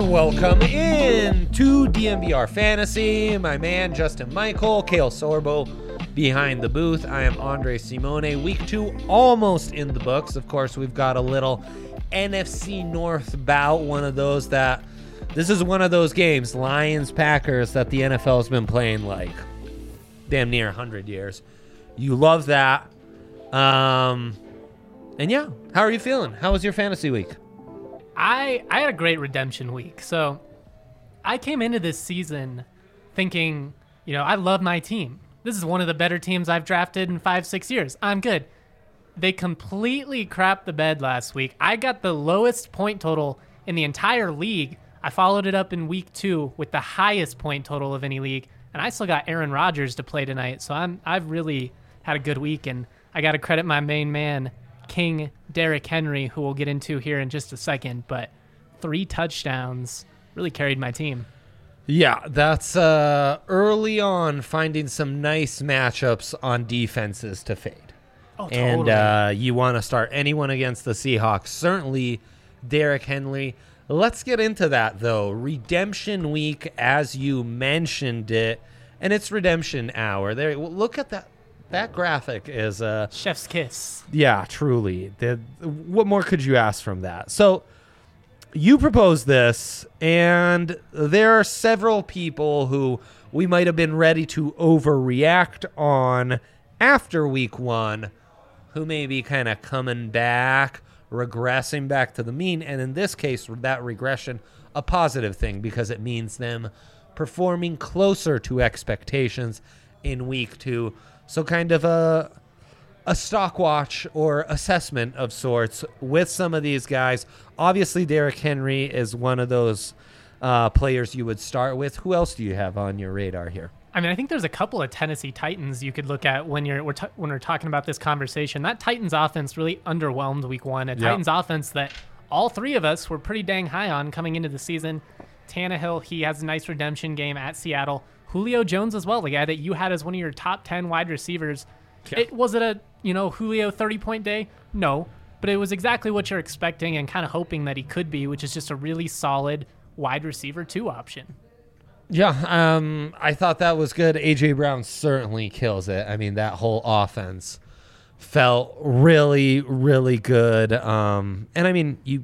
Welcome in to DNVR Fantasy. My man Justin Michael, Kale Sorbo behind the booth. I am Andre Simone. Week 2 almost in the books. Of course, we've got a little NFC North bout. This is one of those games, Lions-Packers, that the NFL has been playing like damn near 100 years. You love that. And yeah, how are you feeling? How was your fantasy week? I had a great redemption week. So I came into this season thinking, I love my team. This is one of the better teams I've drafted in 5-6 years. I'm good. They completely crapped the bed last week. I got the lowest point total in the entire league. I followed it up in week 2 with the highest point total of any league. And I still got Aaron Rodgers to play tonight. So I've really had a good week. And I got to credit my main man, King Derrick Henry, who we'll get into here in just a second, but 3 touchdowns really carried my team. Yeah, that's early on finding some nice matchups on defenses to fade. Oh, totally. And you want to start anyone against the Seahawks. Certainly Derrick Henry. Let's get into that, though. Redemption week, as you mentioned it, and it's redemption hour. There, look at that. That graphic is chef's kiss. Yeah, truly. What more could you ask from that? So you proposed this, and there are several people who we might have been ready to overreact on after week 1 who may be kind of coming back, regressing back to the mean. And in this case, that regression, a positive thing because it means them performing closer to expectations in week 2. So kind of a stock watch or assessment of sorts with some of these guys. Obviously, Derrick Henry is one of those players you would start with. Who else do you have on your radar here? I mean, I think there's a couple of Tennessee Titans you could look at when we're talking about this conversation. That Titans offense really underwhelmed week 1. Titans offense that all 3 of us were pretty dang high on coming into the season. Tannehill, he has a nice redemption game at Seattle. Julio Jones as well, the guy that you had as one of your top 10 wide receivers. Yeah. Was it a, Julio 30-point day? No, but it was exactly what you're expecting and kind of hoping that he could be, which is just a really solid wide receiver 2 option. Yeah, I thought that was good. A.J. Brown certainly kills it. I mean, that whole offense felt really, really good. And I mean, you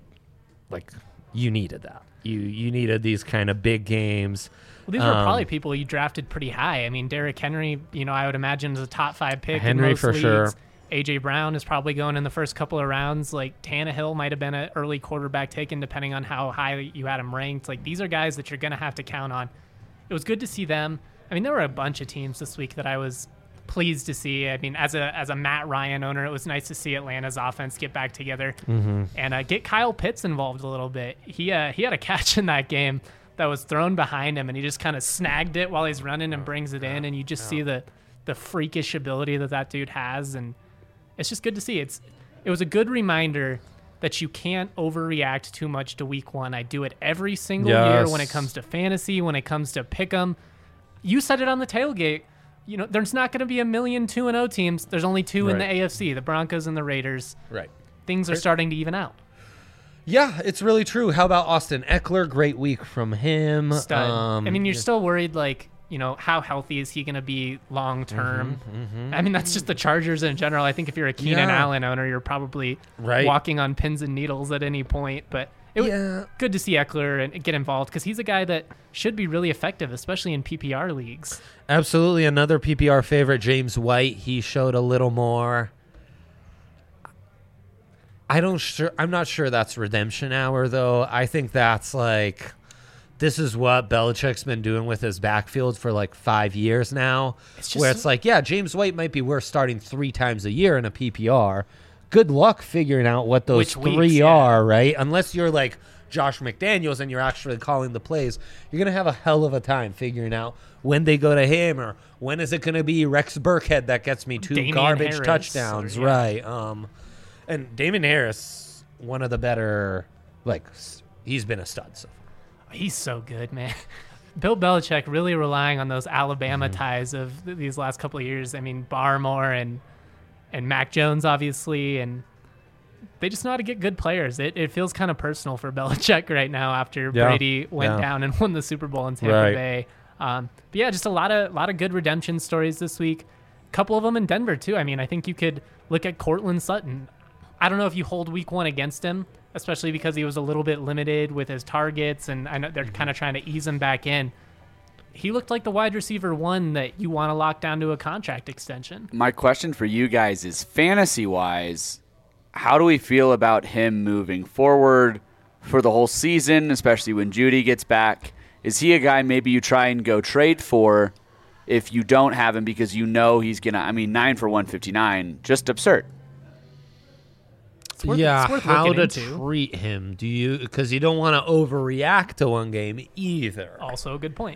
needed that. You needed these kind of big games. Well, these were probably people you drafted pretty high. I mean, Derrick Henry, I would imagine is a top 5 pick Henry in most for leagues. Sure. A.J. Brown is probably going in the first couple of rounds. Like Tannehill might have been an early quarterback taken depending on how high you had him ranked. Like these are guys that you're going to have to count on. It was good to see them. I mean, there were a bunch of teams this week that I was pleased to see. I mean, as a Matt Ryan owner, it was nice to see Atlanta's offense get back together and get Kyle Pitts involved a little bit. He had a catch in that game that was thrown behind him, and he just kind of snagged it while he's running and brings it in, and you just see the freakish ability that dude has, and it's just good to see. It was a good reminder that you can't overreact too much to week 1. I do it every single year when it comes to fantasy, when it comes to pick 'em. You said it on the tailgate. There's not going to be a million 2-0 teams. There's only 2 in the AFC, the Broncos and the Raiders. Right. Things are starting to even out. Yeah, it's really true. How about Austin Eckler? Great week from him. Stud. I mean, you're still worried, how healthy is he going to be long term? I mean, that's just the Chargers in general. I think if you're a Keenan Allen owner, you're probably walking on pins and needles at any point. But it was good to see Eckler and get involved because he's a guy that should be really effective, especially in PPR leagues. Absolutely. Another PPR favorite, James White. He showed a little more. I'm not sure that's redemption hour, though. I think that's this is what Belichick's been doing with his backfield for 5 years now, where it's James White might be worth starting 3 times a year in a PPR. Good luck figuring out what those 3 are, right? Unless you're Josh McDaniels and you're actually calling the plays, you're going to have a hell of a time figuring out when they go to him or when is it going to be Rex Burkhead that gets me 2 garbage Harris, touchdowns, right? And Damon Harris, one of the better, he's been a stud so far. He's so good, man. Bill Belichick really relying on those Alabama ties of these last couple of years. I mean, Barmore and Mac Jones, obviously, and they just know how to get good players. It feels kind of personal for Belichick right now after Brady went down and won the Super Bowl in Tampa Bay. But yeah, just a lot of good redemption stories this week. A couple of them in Denver too. I mean, I think you could look at Cortland Sutton. I don't know if you hold week 1 against him, especially because he was a little bit limited with his targets, and I know they're kind of trying to ease him back in. He looked like the wide receiver 1 that you want to lock down to a contract extension. My question for you guys is, fantasy-wise, how do we feel about him moving forward for the whole season, especially when Judy gets back? Is he a guy maybe you try and go trade for if you don't have him because you know he's going to, 9 for 159, just absurd. It's worth how to into. treat him? Do you, because you don't want to overreact to one game either. Also a good point.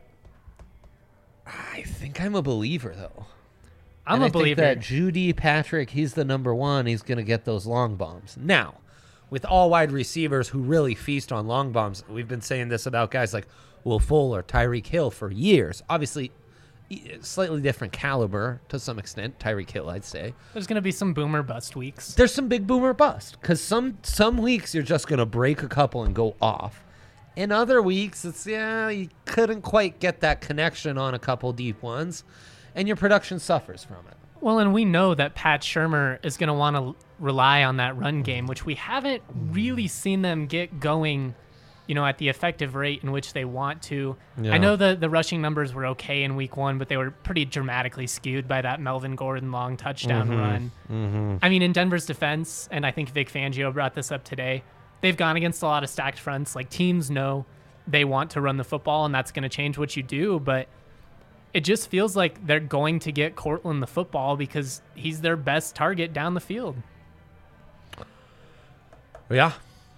I think I'm a believer, though. I'm And a I believer. think that Judy Patrick, he's the number one. He's going to get those long bombs. Now, with all wide receivers who really feast on long bombs, we've been saying this about guys like Will Fuller, Tyreek Hill for years. Obviously, slightly different caliber to some extent. Tyreek Hill, I'd say. There's going to be some boomer bust weeks. There's some big boomer bust because some weeks you're just going to break a couple and go off. In other weeks, it's, you couldn't quite get that connection on a couple deep ones, and your production suffers from it. Well, and we know that Pat Shurmur is going to want to rely on that run game, which we haven't really seen them get going, at the effective rate in which they want to. Yeah. I know the rushing numbers were okay in week 1, but they were pretty dramatically skewed by that Melvin Gordon long touchdown run. Mm-hmm. I mean, in Denver's defense, and I think Vic Fangio brought this up today, they've gone against a lot of stacked fronts. Like, teams know they want to run the football, and that's going to change what you do, but it just feels like they're going to get Cortland the football because he's their best target down the field. Yeah.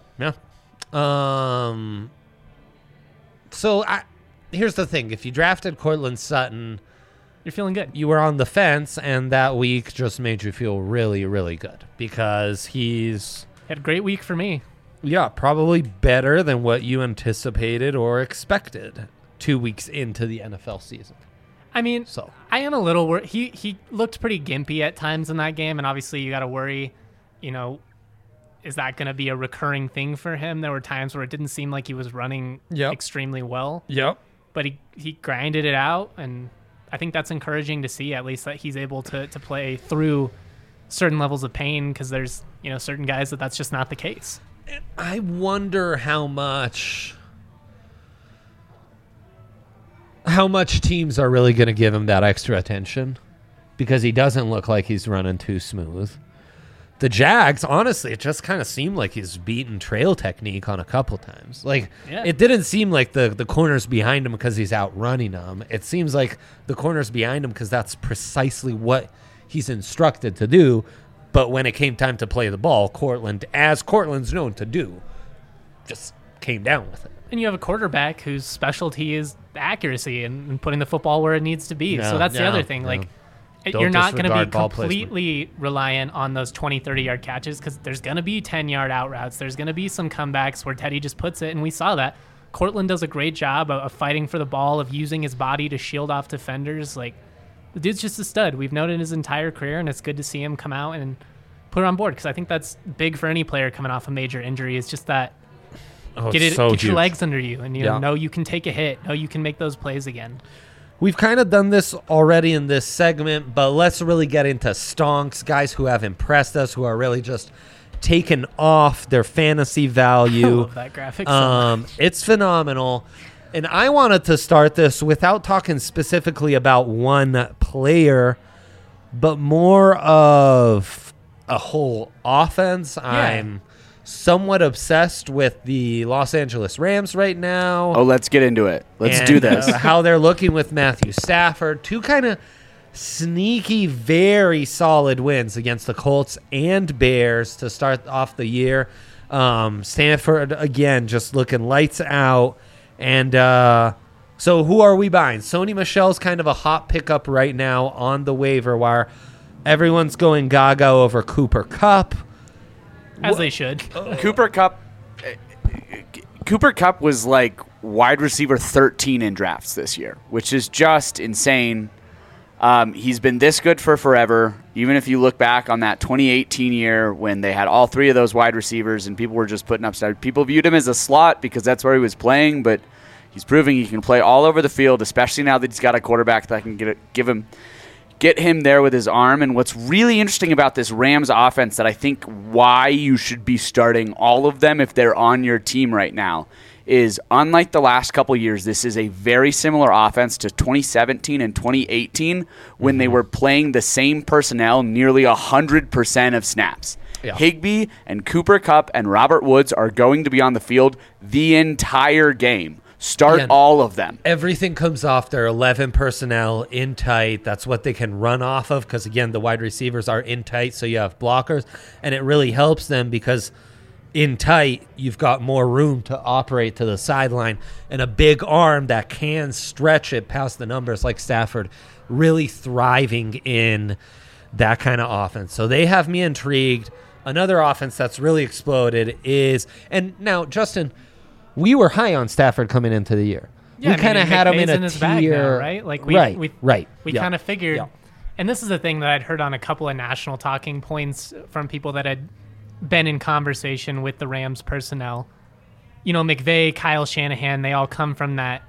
So here's the thing. If you drafted Cortland Sutton, You're feeling good. you were on the fence, and that week just made you feel really, really good because he's, Had a great week for me. probably better than what you anticipated or expected 2 weeks into the NFL season. I mean, So I am a little worried. He looked pretty gimpy at times in that game, and obviously you got to worry, is that going to be a recurring thing for him? There were times where it didn't seem like he was running extremely well, but he grinded it out, and I think that's encouraging to see, at least that he's able to play through certain levels of pain, because there's certain guys that's just not the case. I wonder how much teams are really going to give him that extra attention because he doesn't look like he's running too smooth. The Jags, honestly, it just kind of seemed like he's beaten trail technique on a couple times. Like, It didn't seem like the corners behind him because he's outrunning them. It seems like the corners behind him because that's precisely what he's instructed to do. But when it came time to play the ball, Cortland, as Cortland's known to do, just came down with it. And you have a quarterback whose specialty is accuracy and putting the football where it needs to be. So that's the other thing. Like, Don't you're not going to be disregard ball completely reliant on those 20, 30-yard catches, because there's going to be 10-yard out routes. There's going to be some comebacks where Teddy just puts it, and we saw that. Cortland does a great job of fighting for the ball, of using his body to shield off defenders. Like, the dude's just a stud. We've known his entire career, and it's good to see him come out and put it on board, because I think that's big for any player coming off a major injury. It's just that get your legs under you, and know you can take a hit, know you can make those plays again. We've kind of done this already in this segment, but let's really get into stonks, guys who have impressed us, who are really just taken off their fantasy value. I love that graphic so much. It's phenomenal. And I wanted to start this without talking specifically about one player, but more of a whole offense. Yeah. I'm somewhat obsessed with the Los Angeles Rams right now. Oh, let's get into it. Let's do this. How they're looking with Matthew Stafford. Two kind of sneaky, very solid wins against the Colts and Bears to start off the year. Stanford, again, just looking lights out. And so who are we buying? Sony Michel's kind of a hot pickup right now on the waiver wire. Everyone's going gaga over Cooper Kupp. As they should. Cooper Kupp was like wide receiver 13 in drafts this year, which is just insane. He's been this good for forever. Even if you look back on that 2018 year when they had all three of those wide receivers and people were just putting up stats, people viewed him as a slot because that's where he was playing, but he's proving he can play all over the field, especially now that he's got a quarterback that can get him there with his arm. And what's really interesting about this Rams offense that I think why you should be starting all of them if they're on your team right now is, unlike the last couple years, this is a very similar offense to 2017 and 2018 when they were playing the same personnel nearly 100% of snaps. Yeah. Higbee and Cooper Kupp and Robert Woods are going to be on the field the entire game. Start all of them. Everything comes off their 11 personnel in tight. That's what they can run off of because, again, the wide receivers are in tight, so you have blockers. And it really helps them because in tight, you've got more room to operate to the sideline. And a big arm that can stretch it past the numbers like Stafford, really thriving in that kind of offense. So they have me intrigued. Another offense that's really exploded is – and now, Justin – we were high on Stafford coming into the year. Yeah, we kind of had him in a tier, now, right? Like we kind of figured, and this is a thing that I'd heard on a couple of national talking points from people that had been in conversation with the Rams personnel. You know, McVay, Kyle Shanahan, they all come from that.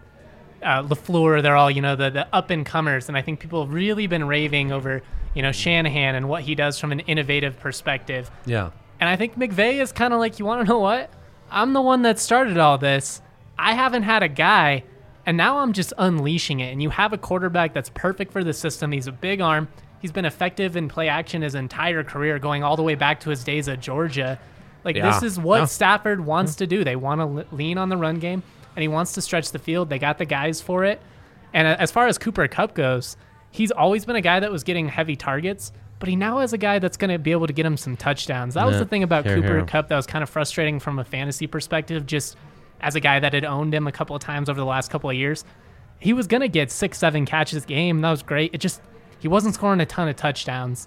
LaFleur, they're all, the up and comers, and I think people have really been raving over, Shanahan and what he does from an innovative perspective. Yeah, and I think McVay is kind of like, you want to know what? I'm the one that started all this. I haven't had a guy, and now I'm just unleashing it. And you have a quarterback that's perfect for the system. He's a big arm. He's been effective in play action his entire career, going all the way back to his days at Georgia. This is what Stafford wants to do. They want to lean on the run game, and he wants to stretch the field. They got the guys for it. And as far as Cooper Kupp goes, he's always been a guy that was getting heavy targets, but he now has a guy that's going to be able to get him some touchdowns. That was the thing about Cooper Kupp that was kind of frustrating from a fantasy perspective, just as a guy that had owned him a couple of times over the last couple of years. He was going to get 6-7 catches a game. That was great. He wasn't scoring a ton of touchdowns.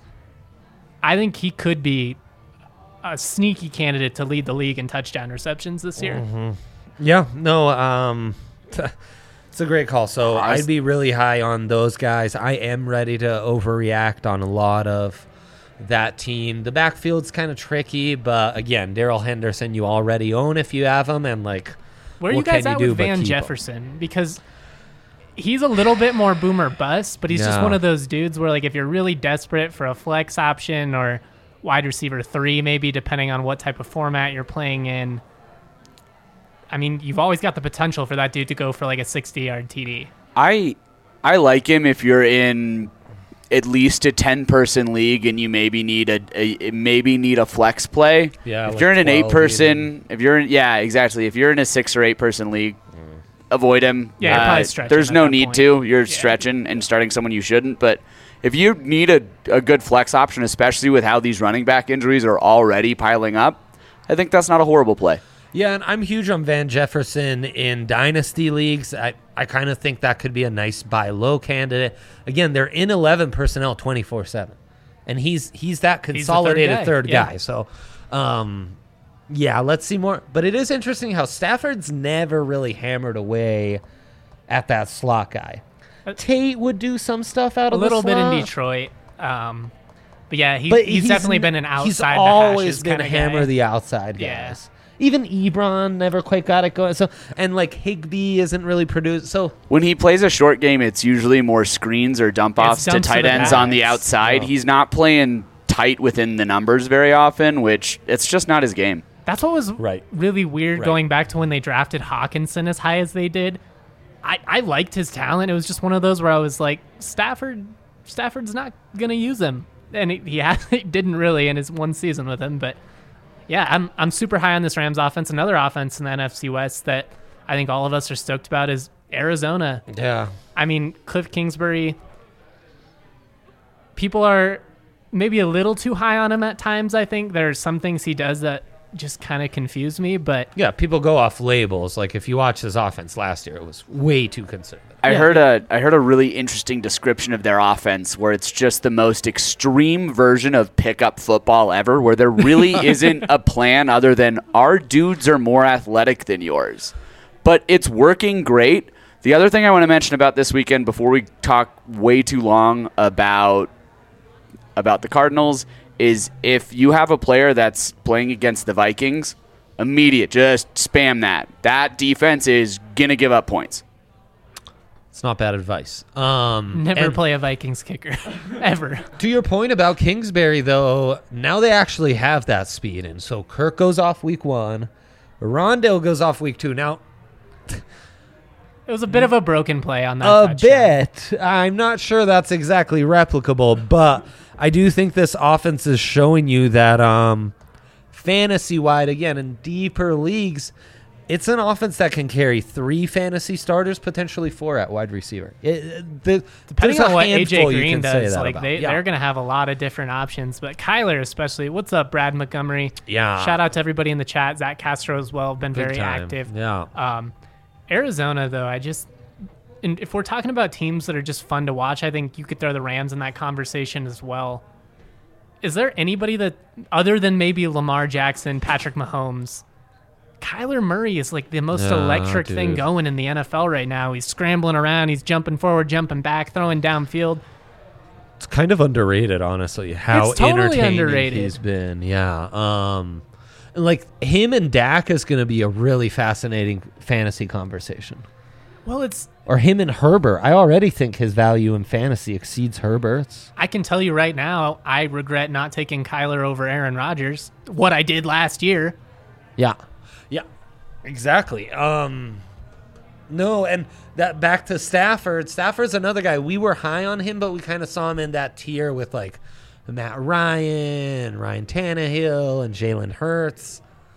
I think he could be a sneaky candidate to lead the league in touchdown receptions this year. Mm-hmm. Yeah, no, it's a great call. So I'd be really high on those guys. I am ready to overreact on a lot of that team. The backfield's kind of tricky, but again, Darrell Henderson you already own if you have him, and like, where are you guys at with Van Jefferson? Because he's a little bit more boomer bust, but he's just one of those dudes where, like, if you're really desperate for a flex option or wide receiver 3, maybe depending on what type of format you're playing in, I mean, you've always got the potential for that dude to go for like a 60-yard TD. I like him if you're in at least a 10-person league and you maybe need a flex play. Yeah, if you're in an 8-person, if you're in a 6 or 8-person league, avoid him. Yeah, you're probably stretching. There's no need to. You're stretching and starting someone you shouldn't. But if you need a good flex option, especially with how these running back injuries are already piling up, I think that's not a horrible play. Yeah, and I'm huge on Van Jefferson in dynasty leagues. I kind of think that could be a nice buy low candidate. Again, they're in 11 personnel 24/7, and he's that consolidated third guy. So, let's see more. But it is interesting how Stafford's never really hammered away at that slot guy. Tate would do some stuff out of the slot. A little bit in Detroit. But yeah, he's definitely been an outside. He's always been a hammer the outside guys. Yeah. Even Ebron never quite got it going. So, and like Higbee isn't really produced. So when he plays a short game, it's usually more screens or dump offs to tight ends on the outside. He's not playing tight within the numbers very often, which it's just not his game. That's what was really weird going back to when they drafted Hawkinson as high as they did. I liked his talent. It was just one of those where I was like, Stafford's not going to use him. And he didn't really in his one season with him, but yeah, I'm super high on this Rams offense. Another offense in the NFC West that I think all of us are stoked about is Arizona. Yeah. I mean, Cliff Kingsbury, people are maybe a little too high on him at times, I think. There are some things he does that just kind of confuse me, but yeah, people go off labels. Like if you watch his offense last year, it was way too conservative. I heard a really interesting description of their offense where it's just the most extreme version of pickup football ever, where there really isn't a plan other than our dudes are more athletic than yours. But it's working great. The other thing I want to mention about this weekend before we talk way too long about the Cardinals is if you have a player that's playing against the Vikings, just spam that. That defense is going to give up points. It's not bad advice. Never play a Vikings kicker, ever. To your point about Kingsbury, though, now they actually have that speed. And so Kirk goes off week 1. Rondale goes off week 2. Now, it was a bit of a broken play on that touchdown. Bit. I'm not sure that's exactly replicable, but I do think this offense is showing you that fantasy-wide, again, in deeper leagues, it's an offense that can carry 3 fantasy starters, potentially 4 at wide receiver. Depending on what AJ Green does, like they're going to have a lot of different options. But Kyler especially. What's up, Brad Montgomery? Yeah. Shout out to everybody in the chat. Zach Castro as well, been very active. Yeah. Arizona, though, if we're talking about teams that are just fun to watch, I think you could throw the Rams in that conversation as well. Is there anybody that, other than maybe Lamar Jackson, Patrick Mahomes, Kyler Murray is like the most electric thing going in the NFL right now. He's scrambling around. He's jumping forward, jumping back, throwing downfield. It's kind of underrated, honestly, how it's totally entertaining underrated. he's been. Yeah. Like him and Dak is going to be a really fascinating fantasy conversation. Well, or him and Herbert. I already think his value in fantasy exceeds Herbert's. I can tell you right now, I regret not taking Kyler over Aaron Rodgers. What I did last year. Yeah. Yeah. Exactly. No, and that back to Stafford. Stafford's another guy. We were high on him, but we kind of saw him in that tier with like Matt Ryan Tannehill, and Jalen Hurts.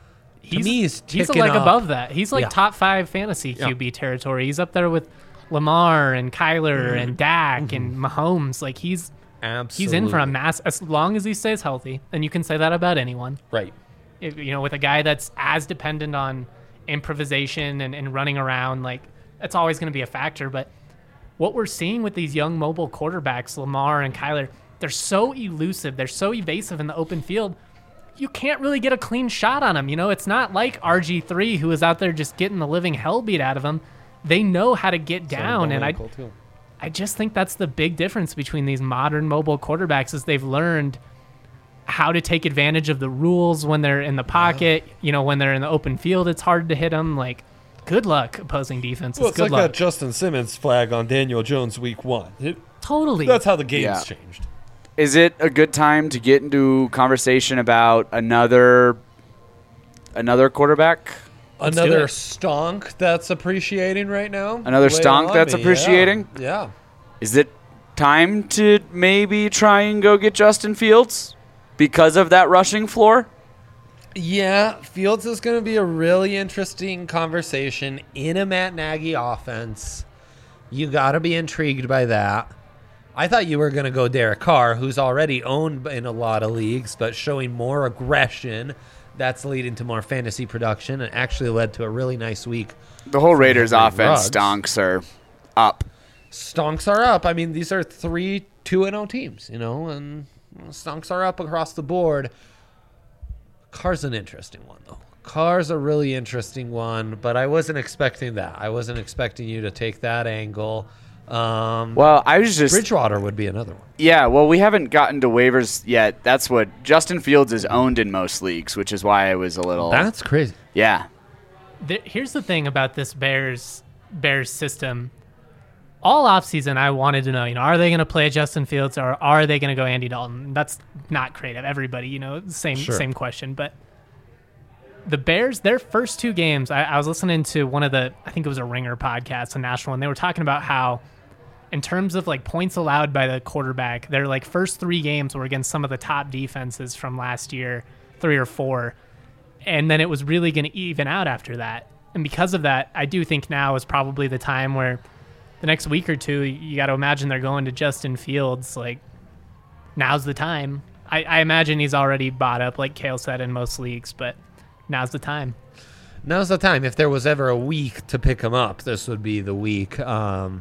He's like up. Above that. He's like top 5 fantasy QB territory. He's up there with Lamar and Kyler and Dak and Mahomes. Like he's in for a mass as long as he stays healthy. And you can say that about anyone. Right. With a guy that's as dependent on improvisation and running around, like that's always going to be a factor. But what we're seeing with these young mobile quarterbacks, Lamar and Kyler, they're so elusive. They're so evasive in the open field. You can't really get a clean shot on them. It's not like RG3 who is out there just getting the living hell beat out of him. They know how to get down, and I just think that's the big difference between these modern mobile quarterbacks is they've learned how to take advantage of the rules when they're in the pocket. When they're in the open field, it's hard to hit them. Like, good luck opposing defenses. Well, it's good like luck. that Justin Simmons flag on Daniel Jones week 1. Totally. That's how the game's changed. Is it a good time to get into conversation about another quarterback? Another stonk that's appreciating right now? Another stonk that's appreciating? Yeah. Is it time to maybe try and go get Justin Fields because of that rushing floor? Yeah, Fields is going to be a really interesting conversation in a Matt Nagy offense. You got to be intrigued by that. I thought you were going to go Derek Carr, who's already owned in a lot of leagues, but showing more aggression. That's leading to more fantasy production and actually led to a really nice week. The whole Raiders offense stonks are up. Stonks are up. I mean, these are 3 2-0 teams, and stonks are up across the board. Carr's an interesting one, though. Carr's a really interesting one, but I wasn't expecting that. I wasn't expecting you to take that angle. Well, I was just... Bridgewater would be another one. Yeah, well, we haven't gotten to waivers yet. That's what Justin Fields is owned in most leagues, which is why I was a little... That's crazy. Yeah. Here's the thing about this Bears system. All offseason, I wanted to know, are they going to play Justin Fields or are they going to go Andy Dalton? That's not creative. Everybody, same question. But the Bears, their first 2 games, I was listening to one of I think it was a Ringer podcast, a national one. They were talking about how, in terms of like points allowed by the quarterback, their like first 3 games were against some of the top defenses from last year, 3 or 4. And then it was really going to even out after that. And because of that, I do think now is probably the time where the next week or 2, you got to imagine they're going to Justin Fields. Like, now's the time. I imagine he's already bought up, like Kale said, in most leagues, but now's the time. Now's the time. If there was ever a week to pick him up, this would be the week. And,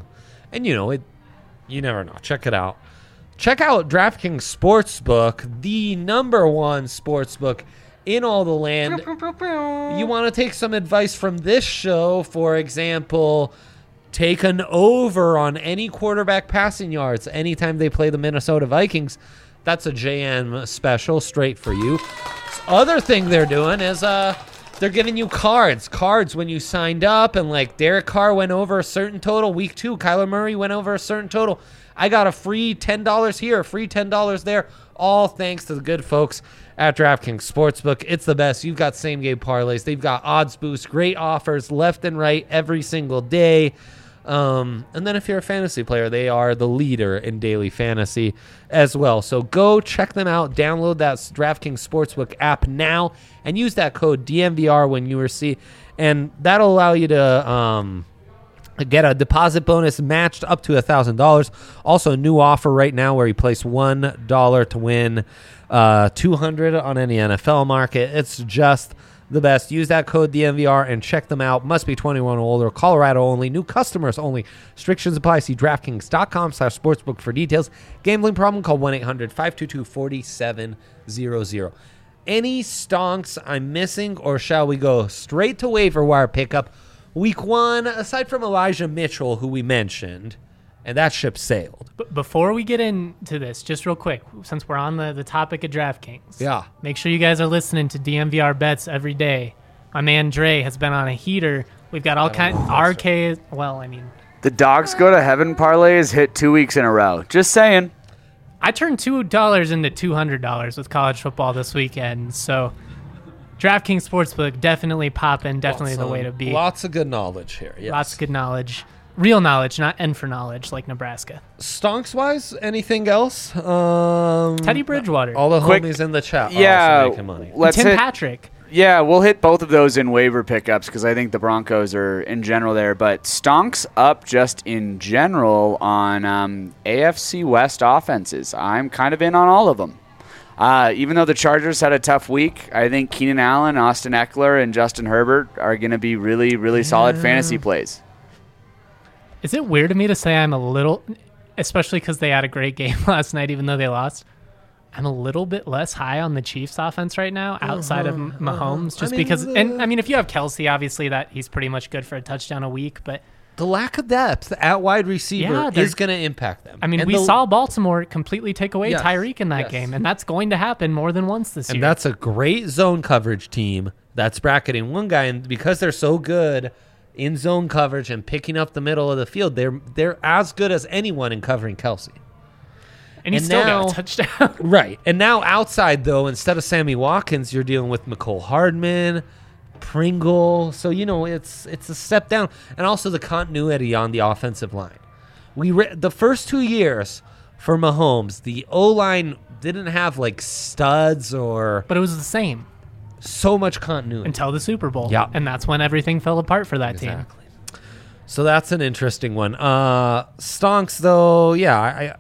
you never know. Check it out. Check out DraftKings Sportsbook, the number 1 sportsbook in all the land. You want to take some advice from this show, for example, take an over on any quarterback passing yards anytime they play the Minnesota Vikings. That's a JM special straight for you. Other thing they're doing is they're giving you cards when you signed up, and like Derek Carr went over a certain total. Week 2, Kyler Murray went over a certain total. I got a free $10 here, free $10 there, all thanks to the good folks at DraftKings Sportsbook. It's the best. You've got same-game parlays. They've got odds boosts, great offers left and right every single day. And then if you're a fantasy player, they are the leader in daily fantasy as well. So go check them out. Download that DraftKings Sportsbook app now and use that code DMVR when you receive, and that'll allow you to get a deposit bonus matched up to $1,000. Also, a new offer right now where you place $1 to win $200 on any NFL market. It's just the best. Use that code DMVR and check them out. Must be 21 or older. Colorado only. New customers only. Restrictions apply. See DraftKings.com/sportsbook for details. Gambling problem? Call 1-800-522-4700. Any stonks I'm missing, or shall we go straight to waiver wire pickup? Week 1, aside from Elijah Mitchell, who we mentioned, and that ship sailed. But before we get into this, just real quick, since we're on the topic of DraftKings, make sure you guys are listening to DMVR bets every day. My man Dre has been on a heater. We've got all kinds RK. Well, I mean, the dogs go to heaven parlay is hit 2 weeks in a row. Just saying. I turned $2 into $200 with college football this weekend, so DraftKings Sportsbook definitely popping, definitely the way to be. Lots of good knowledge here. Yes. Lots of good knowledge. Real knowledge, not N for knowledge like Nebraska. Stonks-wise, anything else? Teddy Bridgewater. All the homies in the chat yeah, are also making money. Tim Patrick. Yeah, we'll hit both of those in waiver pickups because I think the Broncos are in general there. But stonks up just in general on AFC West offenses. I'm kind of in on all of them. Even though the Chargers had a tough week, I think Keenan Allen, Austin Eckler, and Justin Herbert are going to be really, really solid fantasy plays. Is it weird to me to say I'm a little, especially because they had a great game last night, even though they lost, I'm a little bit less high on the Chiefs offense right now outside of Mahomes, just because, and I mean, if you have Kelsey, obviously that he's pretty much good for a touchdown a week, but the lack of depth at wide receiver is going to impact them. I mean, we saw Baltimore completely take away Tyreek in that game, and that's going to happen more than once this year. And that's a great zone coverage team that's bracketing one guy, and because they're so good in zone coverage and picking up the middle of the field, they're as good as anyone in covering Kelsey. And he still got a touchdown. Right. And now outside, though, instead of Sammy Watkins, you're dealing with McCole Hardman, Pringle. So, it's a step down. And also the continuity on the offensive line. The first 2 years for Mahomes, the O-line didn't have like studs or... But it was the same. So much continuity. Until the Super Bowl. Yeah. And that's when everything fell apart for that team. So that's an interesting one. Stonks, though, yeah,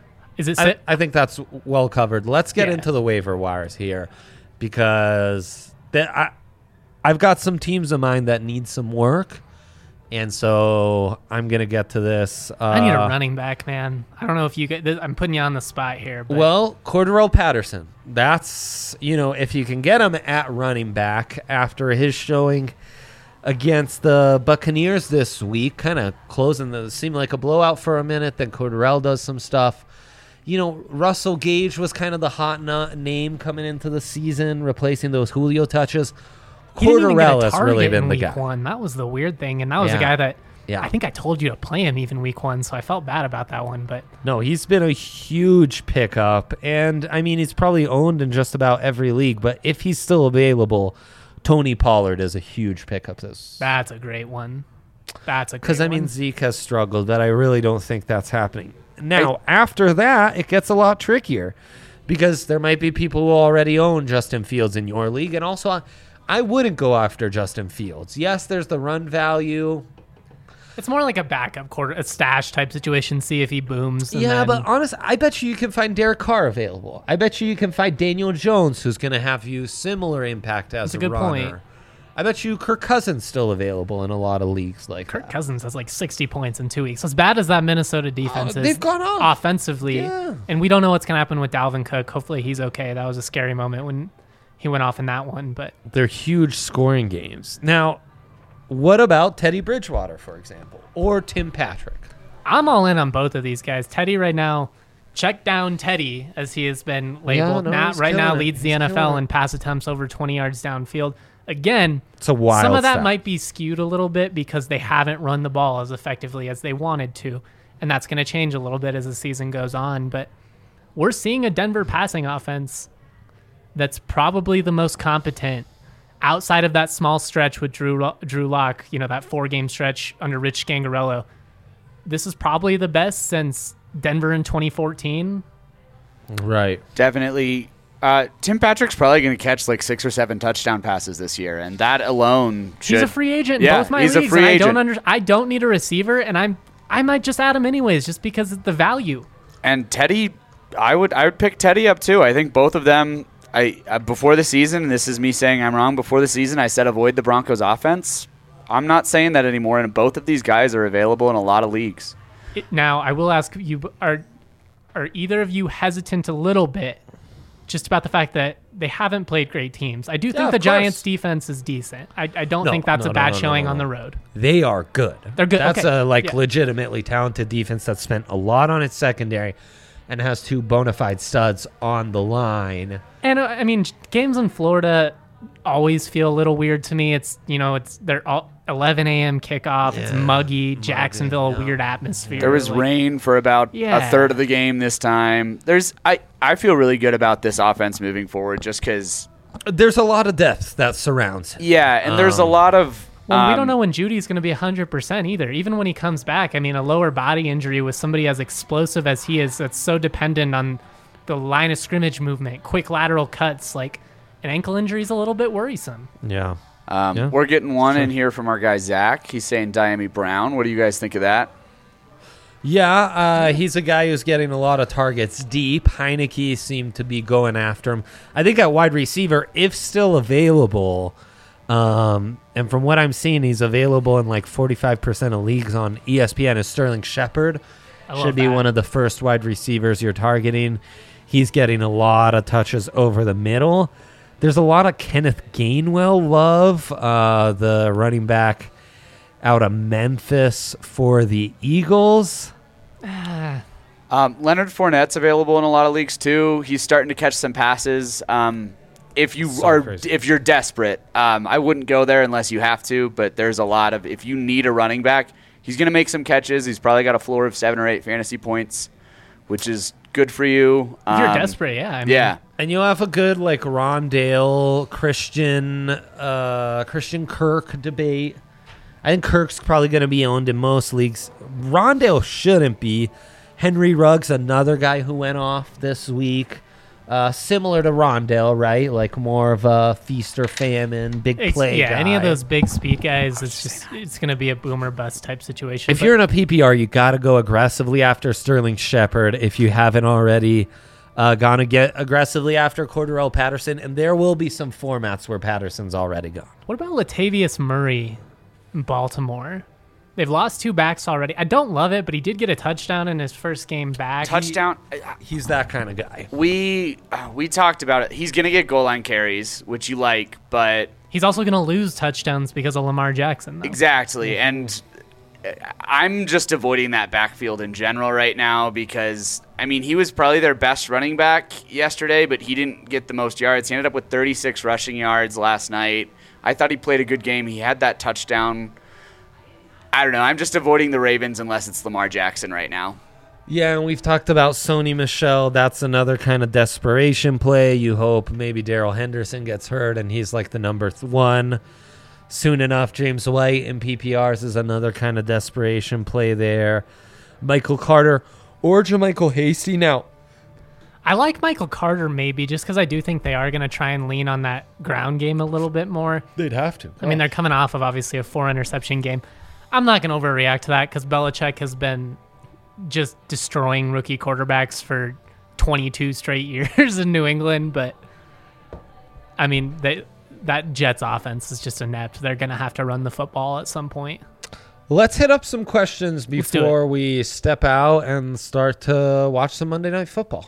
I think that's well covered. Let's get into the waiver wires here because I've got some teams of mine that need some work, and so I'm going to get to this. I need a running back, man. I don't know if you get – I'm putting you on the spot here. But. Well, Cordarrelle Patterson. That's, if you can get him at running back after his showing against the Buccaneers this week, kind of seemed like a blowout for a minute, then Cordarrelle does some stuff. Russell Gage was kind of the hot name coming into the season, replacing those Julio touches. Cordarrelle has really been the guy. One. That was the weird thing, and that was a guy that I think I told you to play him even week 1, so I felt bad about that one. But no, he's been a huge pickup, and I mean he's probably owned in just about every league. But if he's still available, Tony Pollard is a huge pickup. That's a great one. Because I mean Zeke has struggled, but I really don't think that's happening. Now, after that, it gets a lot trickier because there might be people who already own Justin Fields in your league. And also, I wouldn't go after Justin Fields. Yes, there's the run value. It's more like a backup a stash type situation, see if he booms. But honestly, I bet you can find Derek Carr available. I bet you can find Daniel Jones, who's going to have you similar impact as a runner. That's a good point. I bet you Kirk Cousins still available in a lot of leagues like Kirk Cousins has like 60 points in 2 weeks. As bad as that Minnesota defense is, they've gone off offensively, and we don't know what's going to happen with Dalvin Cook. Hopefully he's okay. That was a scary moment when he went off in that one, but they're huge scoring games. Now, what about Teddy Bridgewater, for example, or Tim Patrick? I'm all in on both of these guys. Teddy right now, check down Teddy, as he has been labeled. he's Right now killing it. leads the He's NFL killing it. in pass attempts over 20 yards downfield. Again, It's a wild some of that stat. might be skewed a little bit because they haven't run the ball as effectively as they wanted to. And that's going to change a little bit as the season goes on. But we're seeing a Denver passing offense that's probably the most competent outside of that small stretch with Drew Lock, that 4-game stretch under Rich Scangarello. This is probably the best since Denver in 2014. Right. Definitely. Tim Patrick's probably going to catch like 6 or 7 touchdown passes this year, and that alone should. He's a free agent in Yeah, both my he's a leagues. free and agent. I don't need a receiver, and I might just add him anyways, just because of the value. And Teddy, I would pick Teddy up too. I think both of them. Before the season, and this is me saying I'm wrong. Before the season, I said avoid the Broncos offense. I'm not saying that anymore, and both of these guys are available in a lot of leagues. Now, I will ask you: Are either of you hesitant a little bit, just about the fact that they haven't played great teams? I do Yeah, think of the Giants' course. defense is decent. I don't No, think that's no, a no, bad no, showing no, on no. the road. They are good. They're good. That's Okay. a Yeah. legitimately talented defense that spent a lot on its secondary and has 2 bona fide studs on the line. And I mean, games in Florida always feel a little weird to me. They're all 11 a.m. kickoff. It's Yeah, muggy. Jacksonville, yeah. weird atmosphere. There was Like, rain for about Yeah. a third of the game this time. I feel really good about this offense moving forward, just because. There's a lot of depth that surrounds it. Yeah, and there's a lot of. Well, we don't know when Judy's going to be 100% either. Even when he comes back, I mean, a lower body injury with somebody as explosive as he is, that's so dependent on the line of scrimmage movement, quick lateral cuts. Like, an ankle injury is a little bit worrisome. Yeah. Yeah. We're getting one in here from our guy Zach. He's saying Diami Brown. What do you guys think of that? Yeah, he's a guy who's getting a lot of targets deep. Heineke seemed to be going after him. I think at wide receiver, if still available, and from what I'm seeing, he's available in like 45% of leagues on ESPN, is Sterling Shepard. I love Should be that. one of the first wide receivers you're targeting. He's getting a lot of touches over the middle. There's a lot of Kenneth Gainwell love, the running back out of Memphis for the Eagles. Leonard Fournette's available in a lot of leagues too. He's starting to catch some passes. If you're desperate, I wouldn't go there unless you have to. But there's a lot of, if you need a running back, he's going to make some catches. He's probably got a floor of 7 or 8 fantasy points, which is good for you. If you're desperate, yeah. I mean, Yeah. And you'll have a good like Rondale, Christian Kirk debate. I think Kirk's probably going to be owned in most leagues. Rondale shouldn't be. Henry Ruggs, another guy who went off this week. Similar to Rondale, right? Like more of a feast or famine, big play guy. any of those big speed guys, it's going to be a boomer bust type situation. If But you're in a PPR, you got to go aggressively after Sterling Shepard if you haven't already gone to get aggressively after Cordarrelle Patterson. And there will be some formats where Patterson's already gone. What about Latavius Murray in Baltimore? They've lost 2 backs already. I don't love it, but he did get a touchdown in his first game back. Touchdown. He's that kind of guy. We talked about it. He's going to get goal line carries, which you like, but He's also going to lose touchdowns because of Lamar Jackson, though. exactly. And I'm just avoiding that backfield in general right now because, I mean, he was probably their best running back yesterday, but he didn't get the most yards. He ended up with 36 rushing yards last night. I thought he played a good game. He had that touchdown. I don't know. I'm just avoiding the Ravens unless it's Lamar Jackson right now. Yeah, and we've talked about Sony Michel. That's another kind of desperation play. You hope maybe Darrell Henderson gets hurt and he's like the number 1. Soon enough, James White in PPRs is another kind of desperation play there. Michael Carter or JaMychal Hasty. Now, I like Michael Carter maybe just because I do think they are going to try and lean on that ground game a little bit more. they'd have to. I mean, they're coming off of obviously a 4-interception game. I'm not going to overreact to that because Belichick has been just destroying rookie quarterbacks for 22 straight years in New England. But, I mean, that Jets offense is just inept. They're going to have to run the football at some point. Let's hit up some questions Let's do before we step out and start to watch some Monday Night Football.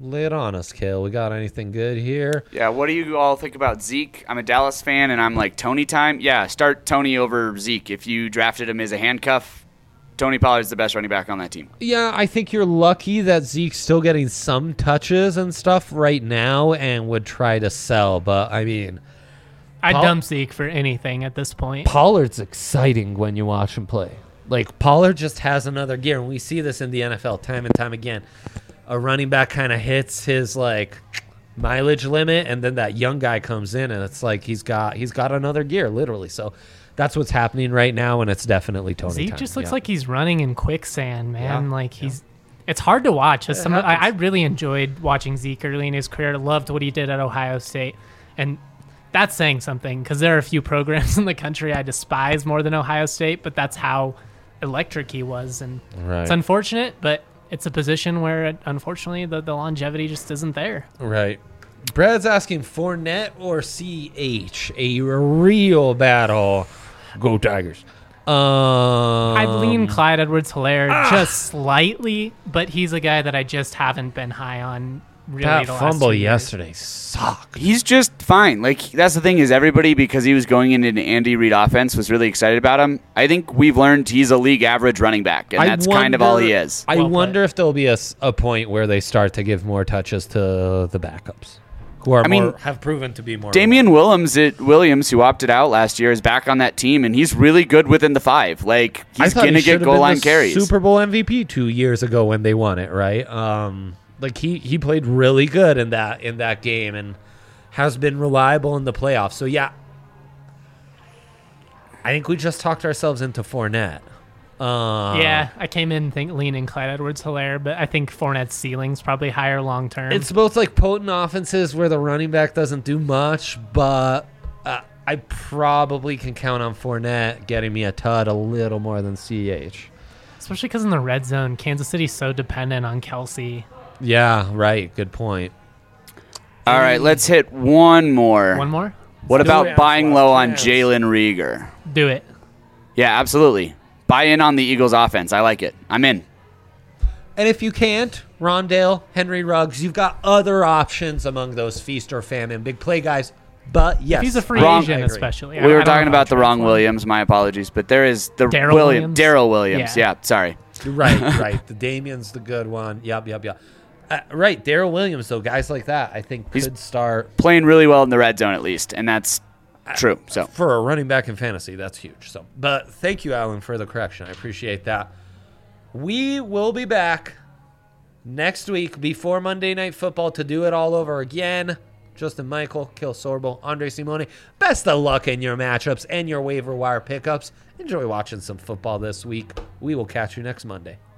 Lay it on us, Kale. We got anything good here? Yeah, what do you all think about Zeke? I'm a Dallas fan, and I'm like, Tony time? Yeah, start Tony over Zeke. If you drafted him as a handcuff, Tony Pollard's the best running back on that team. Yeah, I think you're lucky that Zeke's still getting some touches and stuff right now and would try to sell. But, I mean, I'd dump Zeke for anything at this point. Pollard's exciting when you watch him play. Like, Pollard just has another gear, and we see this in the NFL time and time again. A running back kind of hits his, like, mileage limit, and then that young guy comes in, and it's like he's got another gear, literally. So that's what's happening right now, and it's definitely Tony Zeke time. just looks like he's running in quicksand, man. Yeah. Like it's hard to watch. It I really enjoyed watching Zeke early in his career. Loved what he did at Ohio State, and that's saying something because there are a few programs in the country I despise more than Ohio State, but that's how electric he was, and Right. it's unfortunate, but it's a position where unfortunately the longevity just isn't there. Right. Brad's asking Fournette or CH, a real battle. Go Tigers. I'd lean Clyde Edwards-Helaire just slightly, but he's a guy that I just haven't been high on really That the last fumble 2 years. yesterday sucked. He's just fine. Like, that's the thing is everybody, because he was going into an Andy Reid offense, was really excited about him. I think we've learned he's a league average running back, and that's kind of all he is. I Well wonder played. if there'll be a point where they start to give more touches to the backups, who are have proven to be more. Damian Williams, who opted out last year, is back on that team, and he's really good within the 5. Like, he's going to get goal line carries. Super Bowl MVP 2 years ago when they won it, right? Like he played really good in that game and has been reliable in the playoffs. So yeah, I think we just talked ourselves into Fournette. Yeah, I came in leaning Clyde Edwards-Helaire, but I think Fournette's ceiling's probably higher long term. It's both like potent offenses where the running back doesn't do much, but I probably can count on Fournette getting me a tud a little more than CH. Especially because in the red zone, Kansas City's so dependent on Kelsey. Yeah, right. Good point. All right, let's hit one more. One more? What do it about on buying Flash low on Chance. Jalen Reagor? Do it. Yeah, absolutely. Buy in on the Eagles offense. I like it. I'm in. And if you can't, Rondale, Henry Ruggs, you've got other options among those feast or famine big play guys. But yes, If he's a free Wrong. agent, I agree. especially. We were talking about the wrong Williams. My apologies. But there is the Darrell Williams? Darrell Williams. Yeah. Yeah, sorry. Right. The Damian's the good one. Yep. Right, Darrell Williams, though, guys like that, I think He's- could start Playing really well in the red zone, at least. And that's true. So for a running back in fantasy. That's huge. So, but thank you, Alan, for the correction. I appreciate that. We will be back next week before Monday Night Football to do it all over again. Justin Michael, Kill Sorbo, Andre Simone. Best of luck in your matchups and your waiver wire pickups. Enjoy watching some football this week. We will catch you next Monday.